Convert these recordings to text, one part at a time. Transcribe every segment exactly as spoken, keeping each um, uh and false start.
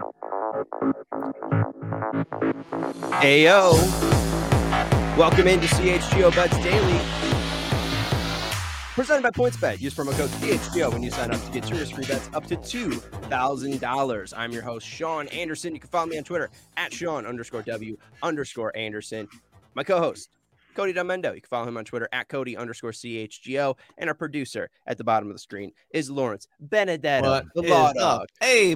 Ayo. Welcome into C H G O Bets Daily. Presented by PointsBet. Use promo code C H G O when you sign up to get serious free bets up to two thousand dollars. I'm your host, Sean Anderson. You can follow me on Twitter at Sean underscore W underscore Anderson. My co-host, Cody Domendo. You can follow him on Twitter at Cody underscore C H G O. And our producer at the bottom of the screen is Lawrence Benedetto, What the Law is Dog. up? Hey,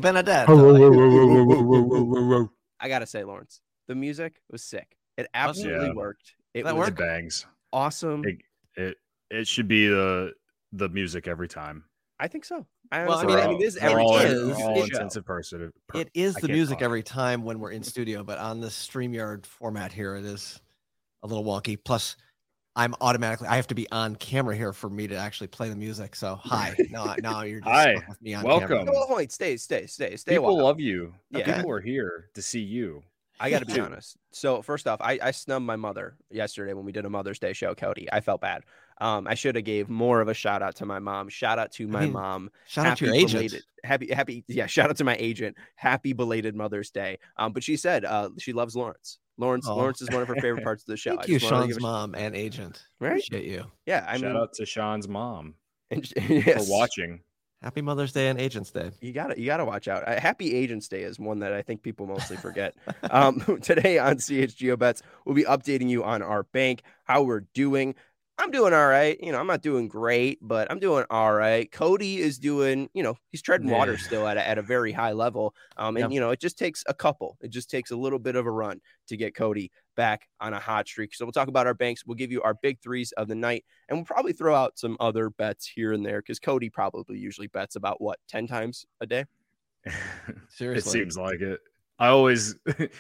Benedetto. I got to say, Lawrence, the music was sick. It absolutely Yeah. worked. It That was worked? bangs. awesome. It, it it should be the the music every time. I think so. I, Well, I honestly, mean, I it- mean, this is it every all, time. is- This is all the show. intensive person. It is I the can't music talk. every time when we're in studio, but on this StreamYard format here, it is a little wonky. Plus, I'm automatically, I have to be on camera here for me to actually play the music. So, hi. Now, now you're just Hi. stuck with me on Welcome. camera. No, wait, stay, stay, stay, stay. a People while. love you. Yeah. People are here to see you. I got to be Dude. honest. So first off, I, I snubbed my mother yesterday when we did a Mother's Day show, Cody. I felt bad. Um, I should have gave more of a shout out to my mom. Shout out to my mean, mom. Shout out to your agent. belated, happy, happy, yeah. Shout out to my agent. Happy belated Mother's Day. Um, but she said uh, she loves Lawrence. Lawrence, Oh. Lawrence is one of her favorite parts of the show. Thank I you, just wanted to Sean's give a- mom and agent. Right? Appreciate you. Yeah, I Shout mean, out to Sean's mom and, yes. for watching. Happy Mother's Day and Agents Day. You gotta, you gotta watch out. Uh, Happy Agents Day is one that I think people mostly forget. um, today on C H G O Bets, we'll be updating you on our bank, how we're doing. I'm doing all right. You know, I'm not doing great, but I'm doing all right. Cody is doing, you know, he's treading water Yeah. still at a, at a very high level. Um, and Yep. you know, it just takes a couple. It just takes a little bit of a run to get Cody back on a hot streak. So we'll talk about our banks. We'll give you our big threes of the night, and we'll probably throw out some other bets here and there because Cody probably usually bets about what ten times a day. It Seriously. seems like it. I always,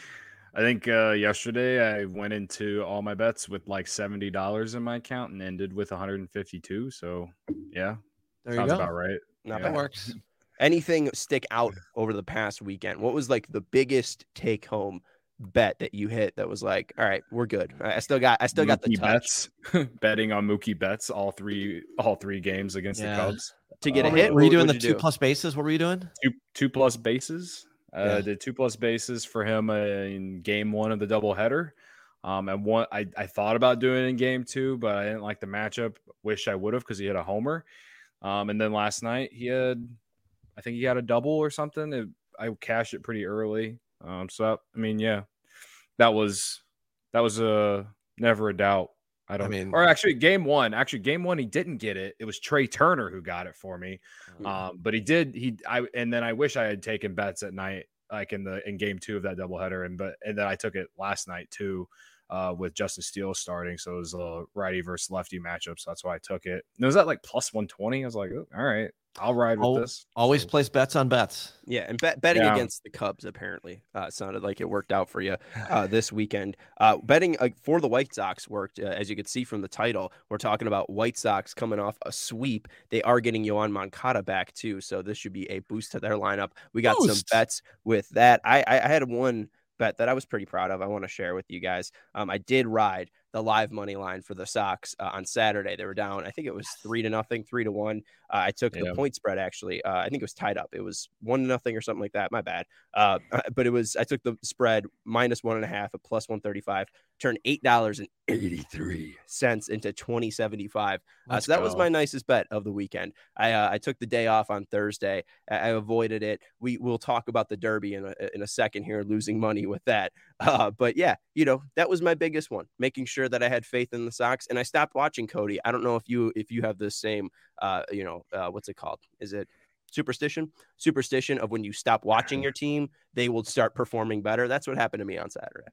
I think uh, yesterday I went into all my bets with like seventy dollars in my account and ended with one hundred fifty-two. So yeah, There you sounds go. about right. Not Yeah. That bad. works. Anything stick out over the past weekend? What was like the biggest take home bet that you hit that was like, all right, we're good. I I still got, I still got the Mookie touch bets, betting on Mookie Betts all three all three games against Yeah. the Cubs. to get a Uh, hit. Were you What doing the would two do? plus bases? What were you doing? Two two plus bases. Uh, Yeah. Did two plus bases for him uh, in game one of the doubleheader. Um, and one I, I thought about doing it in game two, but I didn't like the matchup. Wish I would have because he had a homer. Um, and then last night he had, I think he had a double or something. It, I cashed it pretty early. Um, so I mean, yeah, that was that was a never a doubt. I don't mean- or actually game one, actually game one, he didn't get it. It was Trey Turner who got it for me. Mhm. Um, but he did, he, I, and then I wish I had taken bets at night, like in the, in game two of that doubleheader. And, but, and then I took it last night too, uh, with Justin Steele starting. So it was a righty versus lefty matchup. So that's why I took it. And it was at like plus one twenty. I was like, oh, all right, I'll ride with Oh, this. Always So- place bets on bets. Yeah, and bet, betting Yeah. against the Cubs apparently uh, sounded like it worked out for you uh, this weekend. Uh, betting uh, for the White Sox worked, uh, as you could see from the title. We're talking about White Sox coming off a sweep. They are getting Yohan Moncada back too, so this should be a boost to their lineup. We got some Boost. bets with that. I, I, I had one bet that I was pretty proud of. I want to share with you guys. Um, I did ride the live money line for the Sox uh, on Saturday. They were down, I think it was three to nothing, three to one. Uh, I took Yeah. the point spread actually. Uh, I think it was tied up. It was one to nothing or something like that. My bad. Uh, but it was, I took the spread minus one and a half at plus one thirty-five, turned eight dollars and eighty-three cents into twenty seventy-five. Uh, Let's so that was go. my nicest bet of the weekend. I uh, I took the day off on Thursday. I, I avoided it. We will talk about the Derby in a, in a second here, losing money with that. Uh, but yeah, you know, that was my biggest one, making sure that I had faith in the Sox, and I stopped watching Cody. I don't know if you if you have the same, uh, you know, uh, what's it called? Is it superstition? Superstition of when you stop watching your team, they will start performing better. That's what happened to me on Saturday.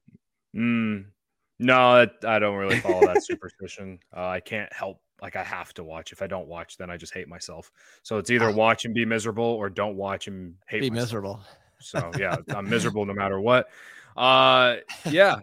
Mm, no, that, I don't really follow that superstition. Uh, I can't help. Like I have to watch. If I don't watch, then I just hate myself. So it's either Ah. watch and be miserable or don't watch and hate Be myself. miserable. So yeah, I'm miserable no matter what. Uh, yeah,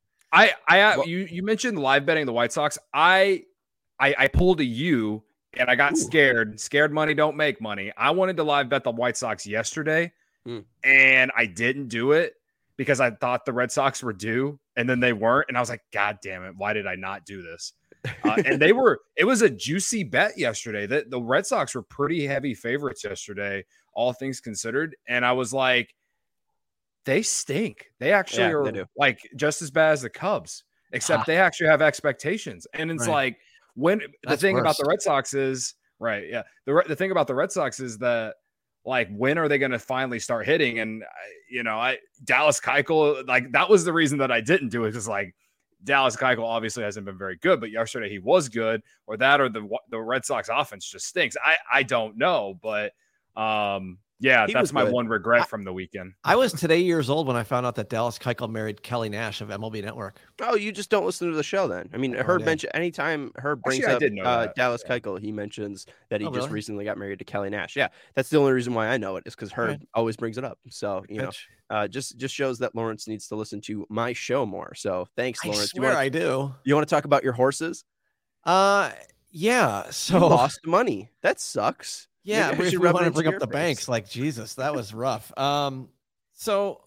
I, I, Well- you, you mentioned live betting the White Sox. I, I, I pulled a U and I got Ooh. scared. Scared money don't make money. I wanted to live bet the White Sox yesterday, Hmm. and I didn't do it because I thought the Red Sox were due, and then they weren't. And I was like, God damn it, why did I not do this? Uh, and they were, it was a juicy bet yesterday. That the Red Sox were pretty heavy favorites yesterday, all things considered. And I was like, they stink. They actually Yeah, are they do. like just as bad as the Cubs, except they actually have expectations. And it's Right. like when the That's thing about worse. the Red Sox is right. Yeah. The, Re- the thing about the Red Sox is that like, when are they going to finally start hitting? And, I- you know, I Dallas Keuchel, like that was the reason that I didn't do it. Because like Dallas Keuchel obviously hasn't been very good, but yesterday he was good, or that, or the the Red Sox offense just stinks. I I don't know, but um, yeah, He that's was my good. one regret I- from the weekend. I was today years old when I found out that Dallas Keuchel married Kelly Nash of M L B Network. Oh, you just don't listen to the show then. I mean, No Herb idea. mentioned anytime Herb brings Actually, I up did know uh, that. Dallas Yeah. Keuchel, he mentions that he Oh, just really? recently got married to Kelly Nash. Yeah, that's the only reason why I know it is because Herb Right. always brings it up. So you know, Pitch. uh, just just shows that Lawrence needs to listen to my show more. So thanks, I Lawrence. swear you want I do. you want to talk about your horses? Uh, yeah. You So lost money. That sucks. yeah, Maybe I we, should we rub it want to into bring up your the face. banks. Like Jesus, that was rough. Um, so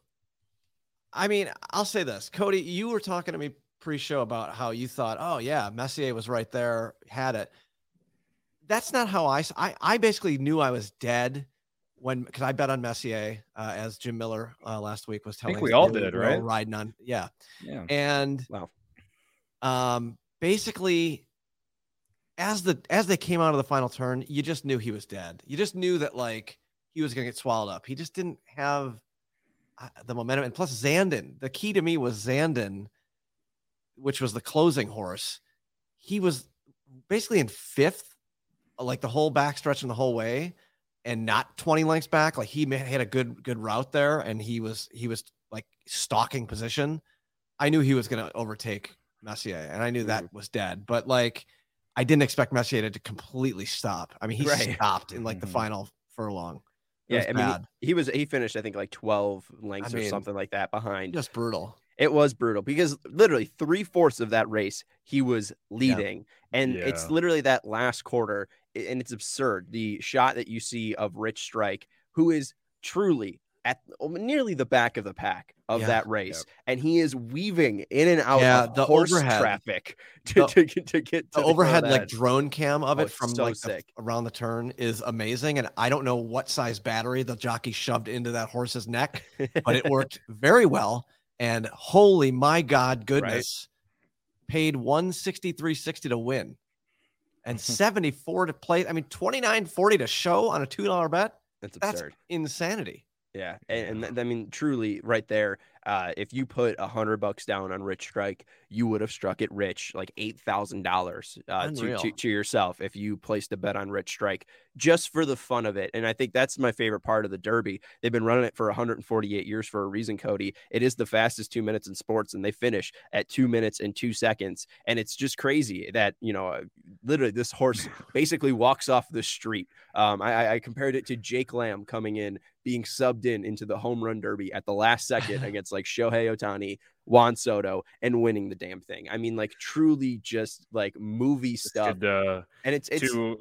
I mean, I'll say this, Cody. You were talking to me pre-show about how you thought, oh yeah, Messier was right there, had it. That's not how I. s- I, I basically knew I was dead when because I bet on Messier, uh, as Jim Miller uh, last week was telling. think we us all they were- did, we were all right? riding on, yeah, Yeah. and Wow. um, basically, as the as they came out of the final turn, you just knew he was dead. You just knew that like he was going to get swallowed up. He just didn't have uh, the momentum. And plus, Zandon. The key to me was Zandon, which was the closing horse. He was basically in fifth, like the whole backstretch and the whole way, and not twenty lengths back. Like he ma- had a good good route there, and he was he was like stalking position. I knew he was going to overtake Messier, and I knew that was dead. But like, I didn't expect Messier to completely stop. I mean, he Right. stopped in like the Mhm. final furlong. It Yeah, was I mean, bad. he, he was he finished I think like twelve lengths I or mean, something like that behind. just brutal. It was brutal because literally three fourths of that race he was leading, and it's Yeah. literally that last quarter, a- and it's absurd. The shot that you see of Rich Strike, who is truly at nearly the back of the pack of Yeah. that race, and he is weaving in and out Yeah, of the horse overhead. traffic to, The- to, get- to get to The overhead front like edge. drone cam of Oh, it it's from so like the- sick. around the turn is amazing. And I don't know what size battery the jockey shoved into that horse's neck, but it worked very well. And holy my God, goodness, paid one sixty-three sixty to win and seventy-four to play. I mean, twenty-nine forty to show on a two dollar bet. That's That's absurd. insanity. Yeah, and, and th- I mean, truly, right there. Uh, if you put a hundred bucks down on Rich Strike, you would have struck it rich, like eight thousand dollars uh, to, Unreal. to to yourself if you placed a bet on Rich Strike just for the fun of it. And I think that's my favorite part of the Derby. They've been running it for one hundred forty-eight years for a reason, Cody. It is the fastest two minutes in sports, and they finish at two minutes and two seconds. And it's just crazy that you know, uh, literally, this horse basically walks off the street. Um, I, I compared it to Jake Lamb coming in, being subbed in into the home run derby at the last second against like Shohei Ohtani, Juan Soto, and winning the damn thing. I mean, like truly just like movie stuff. Could, uh, And it's it's to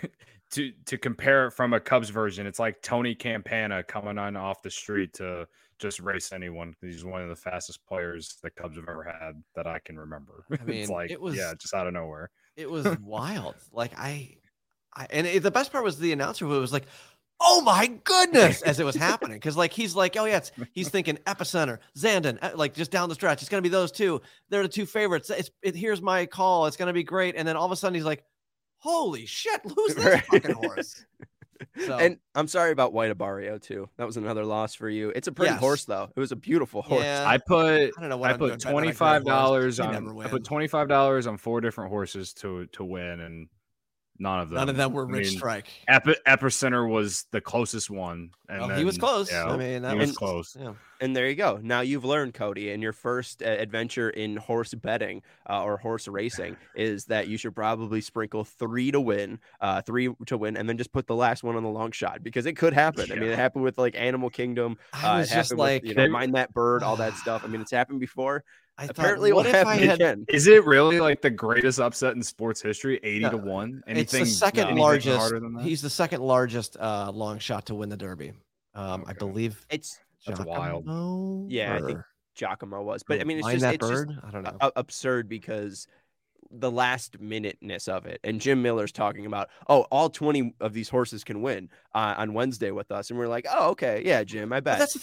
to to compare it from a Cubs version, it's like Tony Campana coming on off the street to just race anyone. He's one of the fastest players the Cubs have ever had that I can remember. I mean, it's like it was- yeah, just out of nowhere. It was wild. Like I, I and it, the best part was the announcer who was like, "Oh my goodness!" as it was happening, because like he's like, "Oh yeah," it's, he's thinking Epicenter, Zandon, uh, like just down the stretch. It's gonna be those two. They're the two favorites. It's it, here's my call. It's gonna be great. And then all of a sudden he's like, "Holy shit! Who's this Right. fucking horse?" So, and I'm sorry about White Abario too. That was another loss for you. It's a pretty Yes. horse though. It was a beautiful horse. yeah, I put I don't know what I I'm doing put betting on a twenty great five horse. dollars They on never I win. put twenty five dollars on four different horses to to win, and none of them. None of them were I Rich mean, Strike. Epi, Epicenter was the closest one, and Well, then, he was close. yeah, I mean, that he was was close. Yeah. And there you go. Now you've learned, Cody, in your first uh, adventure in horse betting uh, or horse racing is that you should probably sprinkle three to win, uh, three to win, and then just put the last one on the long shot because it could happen. I mean, it happened with like Animal Kingdom. I Uh, was it just happened like, with, you know, Mind That Bird, all that stuff. I mean, it's happened before. I Apparently, thought, it what will if I happen had? again. Is it really like the greatest upset in sports history? Eighty No, to one. It's Anything? the second anything largest. harder than that? He's the second largest uh, long shot to win the Derby. Um, I Okay. believe It's That's wild. Giacomo Yeah, I think or- Giacomo was, but I mean, it's Mind just that it's just bird. I don't know. a- absurd because the last minuteness of it. And Jim Miller's talking about, oh, all twenty of these horses can win uh, on Wednesday with us. And we're like, oh, okay. Yeah, Jim, I But bet. that's the thing.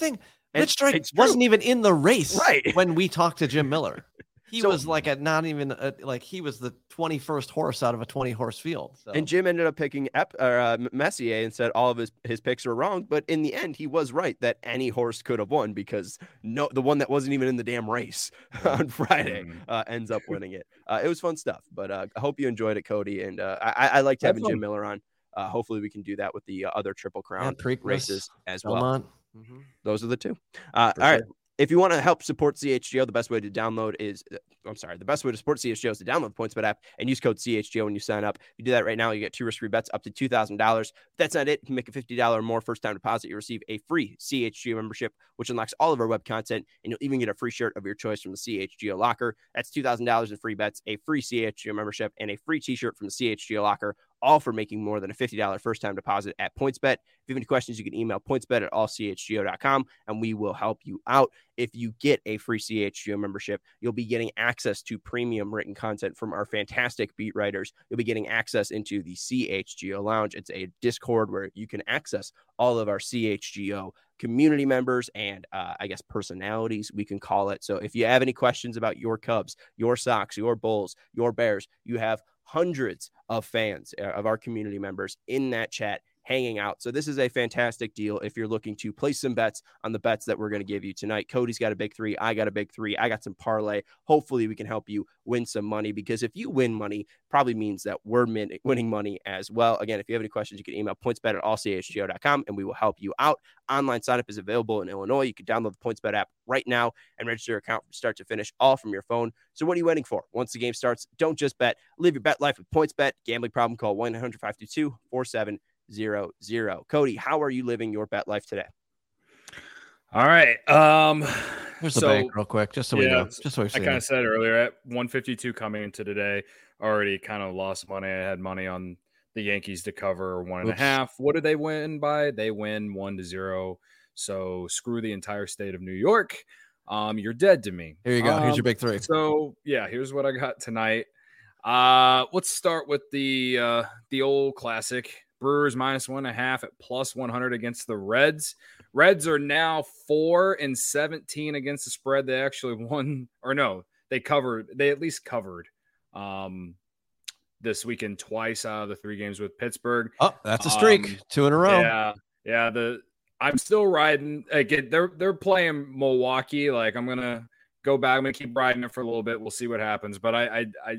And Rich Strike it's true. wasn't even in the race Right. when we talked to Jim Miller. He So- was like a not even a, like he was the twenty-first horse out of a twenty horse field. So. And Jim ended up picking Ep, or, uh, Messier and said all of his, his picks were wrong. But in the end, he was right that any horse could have won because no, the one that wasn't even in the damn race on Friday uh, ends up winning it. Uh, it was fun stuff. But uh, I hope you enjoyed it, Cody. And uh, I, I liked having Jim Miller on. Uh, hopefully, we can do that with the uh, other Triple Crown yeah, races as Belmont. well. Mm-hmm. Those are the two. Uh, all For right. sure. If you want to help support C H G O, the best way to download is, I'm sorry, the best way to support C H G O is to download the PointsBet app and use code C H G O when you sign up. If you do that right now, you get two risk-free bets up to two thousand dollars. If that's not it, you can make a fifty dollars or more first-time deposit. You receive a free C H G O membership, which unlocks all of our web content, and you'll even get a free shirt of your choice from the C H G O locker. That's two thousand dollars in free bets, a free C H G O membership, and a free t-shirt from the C H G O locker, all for making more than a fifty dollars first-time deposit at PointsBet. If you have any questions, you can email pointsbet at all c h g o dot com, and we will help you out. If you get a free C H G O membership, you'll be getting access to premium written content from our fantastic beat writers. You'll be getting access into the C H G O Lounge. It's a Discord where you can access all of our C H G O community members and uh, I guess personalities, we can call it. So if you have any questions about your Cubs, your Sox, your Bulls, your Bears, you have hundreds of fans uh, of our community members in that chat hanging out. So this is a fantastic deal if you're looking to place some bets on the bets that we're going to give you tonight. Cody's got a big three. I got a big three. I got some parlay. Hopefully we can help you win some money, because if you win money, probably means that we're min- winning money as well. Again, if you have any questions, you can email pointsbet at all c h g o dot com and we will help you out. Online sign up is available in Illinois. You can download the PointsBet app right now and register your account from start to finish, all from your phone. So what are you waiting for? Once the game starts, don't just bet. Live your bet life with PointsBet. Gambling problem, call one eight hundred five two two four seven zero zero. Cody, how are you living your bet life today? All right. Um, Here's the so, bank real quick, just so we yeah, know. Just so we I kind of said earlier at one fifty-two coming into today, already kind of lost money. I had money on the Yankees to cover one and Oops. a half. What did they win by? They win one to zero. So screw the entire state of New York. Um, you're dead to me. Here you go. Um, Here's your big three. So yeah, here's what I got tonight. Uh, let's start with the uh, the old classic. Brewers minus one and a half at plus one hundred against the Reds. Reds are now four and seventeen against the spread. They actually won, or no, they covered. They at least covered um, this weekend twice out of the three games with Pittsburgh. Oh, that's a streak. Um, Two in a row. Yeah, yeah. The I'm still riding. Again, they're they're playing Milwaukee. Like I'm gonna go back. I'm gonna keep riding it for a little bit. We'll see what happens. But I I. I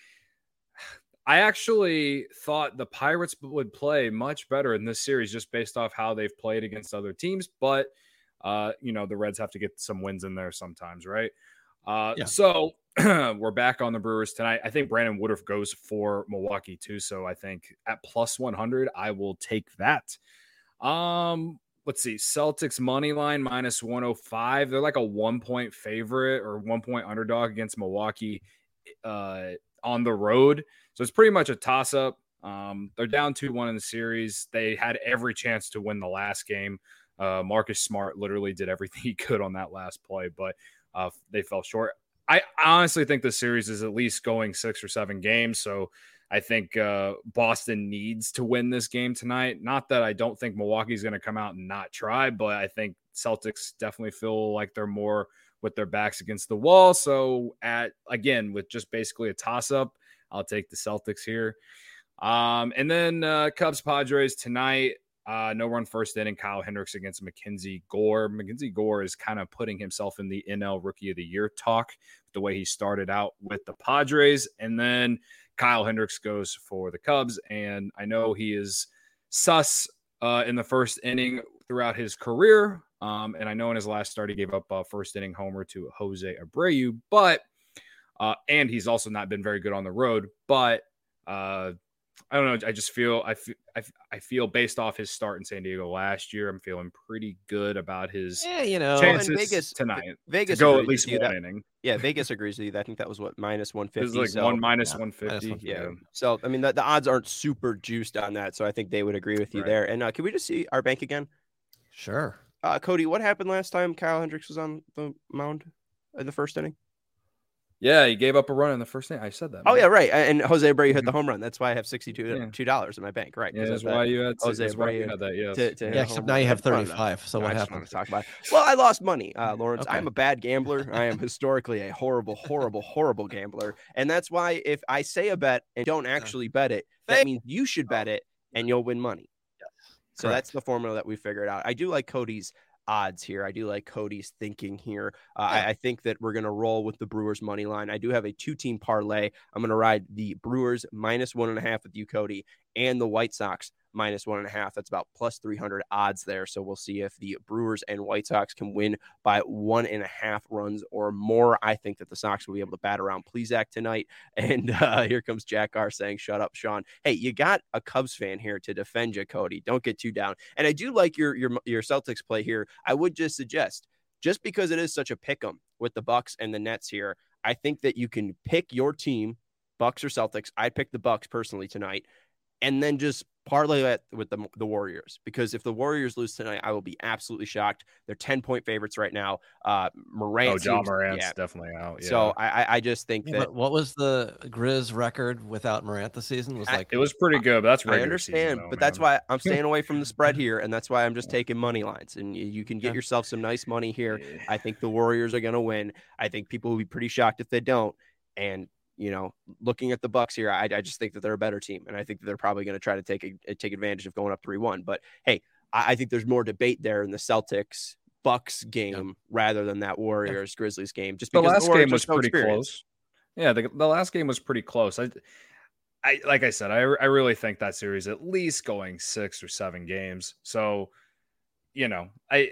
I actually thought the Pirates would play much better in this series just based off how they've played against other teams. But, uh, you know, the Reds have to get some wins in there sometimes, right? Uh, yeah. So we're back on the Brewers tonight. I think Brandon Woodruff goes for Milwaukee too. So I think at plus one hundred, I will take that. Um, let's see. Celtics money line minus one oh five. They're like a one point favorite or one point underdog against Milwaukee uh, on the road. So it's pretty much a toss-up. Um, they're down two one in the series. They had every chance to win the last game. Uh, Marcus Smart literally did everything he could on that last play, but uh, they fell short. I honestly think the series is at least going six or seven games, so I think uh, Boston needs to win this game tonight. Not that I don't think Milwaukee's going to come out and not try, but I think Celtics definitely feel like they're more with their backs against the wall. So, at again, with just basically a toss-up, I'll take the Celtics here. Um, and then uh, Cubs Padres tonight. Uh, no run first inning. Kyle Hendricks against Mackenzie Gore. Mackenzie Gore is kind of putting himself in the N L Rookie of the Year talk, the way he started out with the Padres. And then Kyle Hendricks goes for the Cubs. And I know he is sus uh, in the first inning throughout his career. Um, and I know in his last start, he gave up a first inning homer to Jose Abreu, but Uh, and he's also not been very good on the road, but uh, I don't know. I just feel I, f- I, f- I feel based off his start in San Diego last year, I'm feeling pretty good about his yeah, you know, chances and Vegas tonight. Vegas to go agrees at least with you one that, inning. Yeah, Vegas agrees with you. I think that was what minus one It was fifty. like so, one minus yeah, one fifty. minus yeah. yeah. So I mean, the, the odds aren't super juiced on that. So I think they would agree with you Right. there. And uh, can we just see our bank again? Sure. Uh, Cody, what happened last time Kyle Hendricks was on the mound in the first inning? Yeah, he gave up a run in the first inning. I said that. Oh man. yeah, right. And Jose Abreu hit the home run. That's why I have sixty-two Yeah. dollars in my bank. Right. Yeah, that's why you had to, Jose that's why you Abreu had that. Yes. to, to hit Yeah, a except home now run. you I have just wanted to- thirty-five. So no, what I just happened? want to talk about it. Well, I lost money, uh, Lawrence. Okay. I'm a bad gambler. I am historically a horrible, horrible, horrible gambler. And that's why if I say a bet and don't actually bet it, that Fake. means you should bet it and you'll win money. So Correct. that's the formula that we figured out. I do like Cody's odds here. I do like Cody's thinking here. Uh, Yeah. I, I think that we're going to roll with the Brewers money line. I do have a two-team parlay. I'm going to ride the Brewers minus one and a half with you, Cody, and the White Sox minus one and a half. That's about plus three hundred odds there. So we'll see if the Brewers and White Sox can win by one and a half runs or more. I think that the Sox will be able to bat around Plesac tonight. And uh, here comes Jack R saying, shut up, Sean. Hey, you got a Cubs fan here to defend you, Cody. Don't get too down. And I do like your, your, your Celtics play here. I would just suggest, just because it is such a pick 'em with the Bucks and the Nets here, I think that you can pick your team, Bucks or Celtics. I'd pick the Bucks personally tonight, and then just parlay that with the, the Warriors, because if the Warriors lose tonight, I will be absolutely shocked. They're ten point favorites right now. Uh, Morant, Oh, John seems, Morant's yeah. definitely out. Yeah. So I, I just think Yeah, that but what was the Grizz record without Morant this season? It was I- like it was pretty good, but that's I regular understand, season, though, but that's man. why I'm staying away from the spread here, and that's why I'm just taking money lines. And you, you can get Okay. yourself some nice money here. I think the Warriors are going to win. I think people will be pretty shocked if they don't. And you know, looking at the Bucks here, I, I just think that they're a better team, and I think that they're probably going to try to take a, take advantage of going up three one. But hey, I, I think there's more debate there in the Celtics Bucks game yeah. rather than that Warriors yeah. Grizzlies game. Just the because last the game was so pretty experienced. close. Yeah, the, the last game was pretty close. I, I like I said, I I really think that series at least going six or seven games. So, you know, I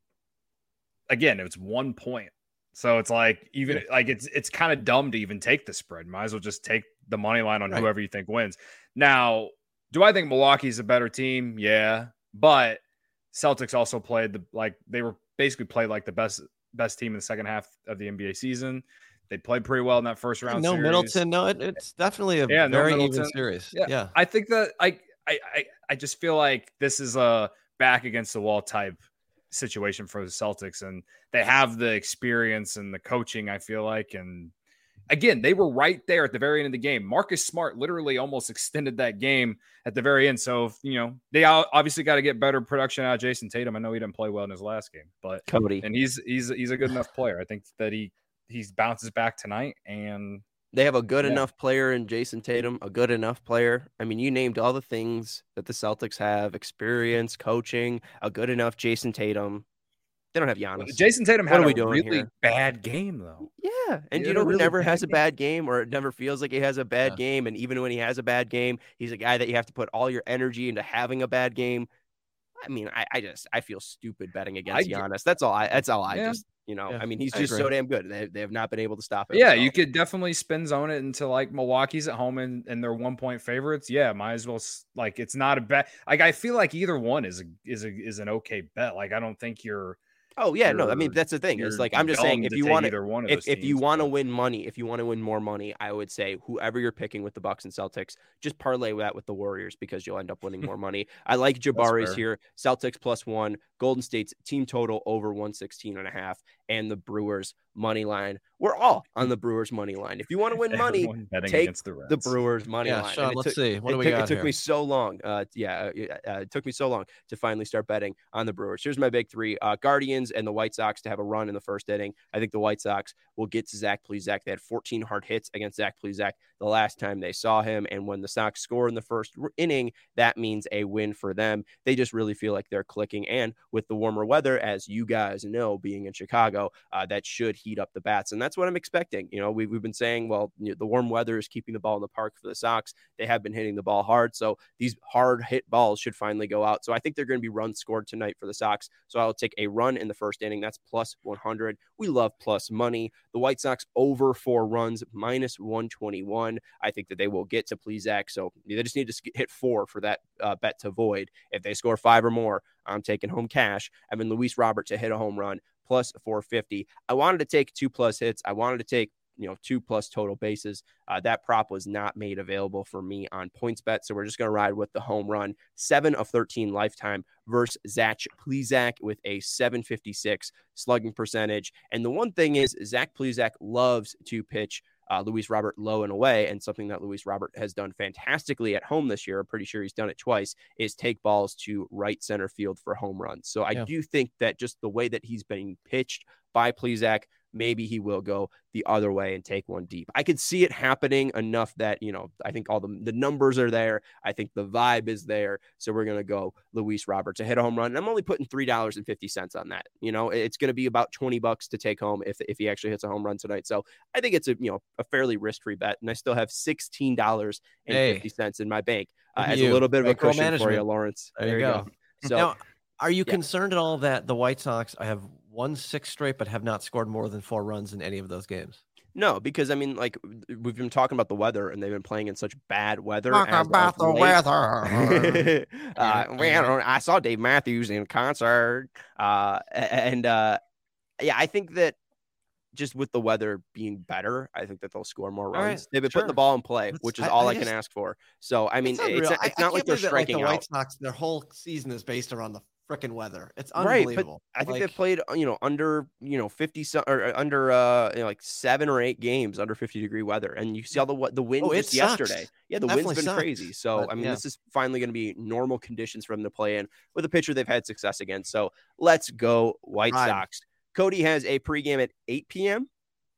again, it's one point. So it's like even yeah. like it's it's kind of dumb to even take the spread. Might as well just take the money line on right. whoever you think wins. Now, do I think Milwaukee's a better team? Yeah, but Celtics also played the like they were basically played like the best best team in the second half of the N B A season. They played pretty well in that first round. No series. Middleton. No, it, it's definitely a yeah, very no even series. Yeah. yeah, I think that I I I I just feel like this is a back against the wall type situation for the Celtics, and they have the experience and the coaching, I feel like. And again, they were right there at the very end of the game. Marcus Smart literally almost extended that game at the very end. So, you know, they obviously got to get better production out of Jason Tatum. I know he didn't play well in his last game, but Cody, and he's he's he's a good enough player. I think that he he bounces back tonight, and they have a good yeah. enough player in Jason Tatum, a good enough player. I mean, you named all the things that the Celtics have: experience, coaching, a good enough Jason Tatum. They don't have Giannis. Jason Tatum had what are we a doing really here? bad game, though. Yeah, and He you know who really never has a game. bad game, or it never feels like he has a bad Yeah. game. And even when he has a bad game, he's a guy that you have to put all your energy into having a bad game. I mean, I, I just I feel stupid betting against I, Giannis. That's all. I that's all. I yeah. just you know. Yeah, I mean, he's I just agree. so damn good. They they have not been able to stop him. Yeah, so. you could definitely spin zone it into like Milwaukee's at home and, and they're one point favorites. Yeah, might as well. Like, it's not a bet. Like, I feel like either one is a, is a, is an okay bet. Like, I don't think you're. Oh yeah, no. I mean, that's the thing. It's like I'm just saying, if you want either one of if those if you teams, want to but- win money, if you want to win more money, I would say whoever you're picking with the Bucks and Celtics, just parlay that with the Warriors because you'll end up winning more money. I like Jabari's fair. here. Celtics plus one, Golden State's team total over one sixteen and a half, and the Brewers money line. We're all on the Brewers money line. If you want to win money, Everyone betting take against the, Reds. the Brewers money Yeah, line. Sean, And it let's took- see. What do it we took, got It took here? me so long. Uh, yeah, uh, uh, it took me so long to finally start betting on the Brewers. Here's my big three: uh, Guardians and the White Sox to have a run in the first inning. I think the White Sox will get to Zach Plesac. They had fourteen hard hits against Zach Plesac the last time they saw him, and when the Sox score in the first inning, that means a win for them. They just really feel like they're clicking, and with the warmer weather, as you guys know, being in Chicago, uh, that should heat up the bats, and that's what I'm expecting. You know, we've, we've been saying, well, you know, the warm weather is keeping the ball in the park for the Sox. They have been hitting the ball hard, so these hard hit balls should finally go out. So I think they're going to be runs scored tonight for the Sox. So I'll take a run in the first inning. That's plus one hundred. We love plus money. The White Sox over four runs, minus one twenty-one. I think that they will get to Plesac. So they just need to hit four for that uh, bet to void. If they score five or more, I'm taking home cash. Evan Luis Robert to hit a home run, plus four fifty. I wanted to take two plus hits. I wanted to take you know, two plus total bases. Uh, that prop was not made available for me on PointsBet. So we're just going to ride with the home run. seven of thirteen lifetime versus Zach Plesac with a seven fifty-six slugging percentage. And the one thing is, Zach Plesac loves to pitch Uh, Luis Robert low and away, and something that Luis Robert has done fantastically at home this year, I'm pretty sure he's done it twice, is take balls to right center field for home runs. So I yeah. do think that just the way that he's being pitched by Plesac, maybe he will go the other way and take one deep. I could see it happening enough that, you know, I think all the, the numbers are there. I think the vibe is there. So we're going to go Luis Robert to hit a home run. And I'm only putting three dollars and fifty cents on that. You know, it's going to be about twenty bucks to take home if, if he actually hits a home run tonight. So I think it's a, you know, a fairly risk-free bet. And I still have sixteen dollars and fifty cents hey. in my bank uh, as a little bit of a cushion management. for you, Lawrence. There, there you go. go. So now, are you yeah. concerned at all that the White Sox I have won six straight, but have not scored more than four runs in any of those games? No, because I mean, like we've been talking about the weather, and they've been playing in such bad weather. Talk about the late. weather. uh, well, I saw Dave Matthews in concert, uh, and uh, yeah, I think that just with the weather being better, I think that they'll score more runs. Right, They've been sure. putting the ball in play, That's, which is I, all I, I just, can ask for. So I mean, it's, it's, it's, it's not I like they're striking that, like, the out. White Sox, their whole season is based around the freaking weather. It's unbelievable. Right, but I think like, they've played, you know, under, you know, fifty or under uh you know, like seven or eight games under fifty degree weather, and you see all the the wind oh, just yesterday. Yeah, the Definitely wind's been sucks. crazy. So but, I mean, yeah. this is finally going to be normal conditions for them to play in with a pitcher they've had success against. So let's go White right. Sox. Cody has a pregame at eight p.m.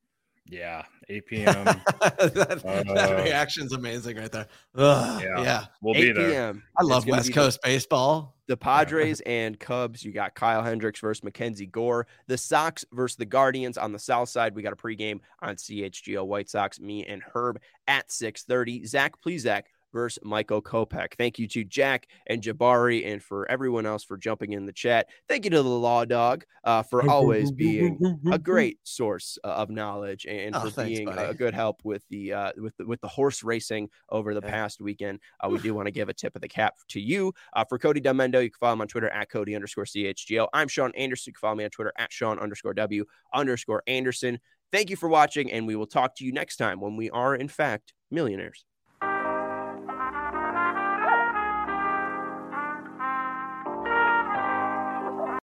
Yeah, eight p.m. that, uh, that reaction's amazing right there. Ugh, yeah, yeah, we'll be there. I love West Coast the, baseball. The Padres and Cubs. You got Kyle Hendricks versus Mackenzie Gore. The Sox versus the Guardians on the south side. We got a pregame on C H G O White Sox. Me and Herb at six thirty. Zach Plesac versus Michael Kopech. Thank you to Jack and Jabari and for everyone else for jumping in the chat. Thank you to the Law Dog uh, for always being a great source uh, of knowledge and oh, for thanks, being buddy. a good help with the uh, with the, with the horse racing over the yeah. past weekend. Uh, we do want to give a tip of the cap to you. Uh, for Cody Demendo, you can follow him on Twitter at Cody underscore C H G O. I'm Sean Anderson. You can follow me on Twitter at Sean underscore W underscore Anderson. Thank you for watching, and we will talk to you next time when we are, in fact, millionaires.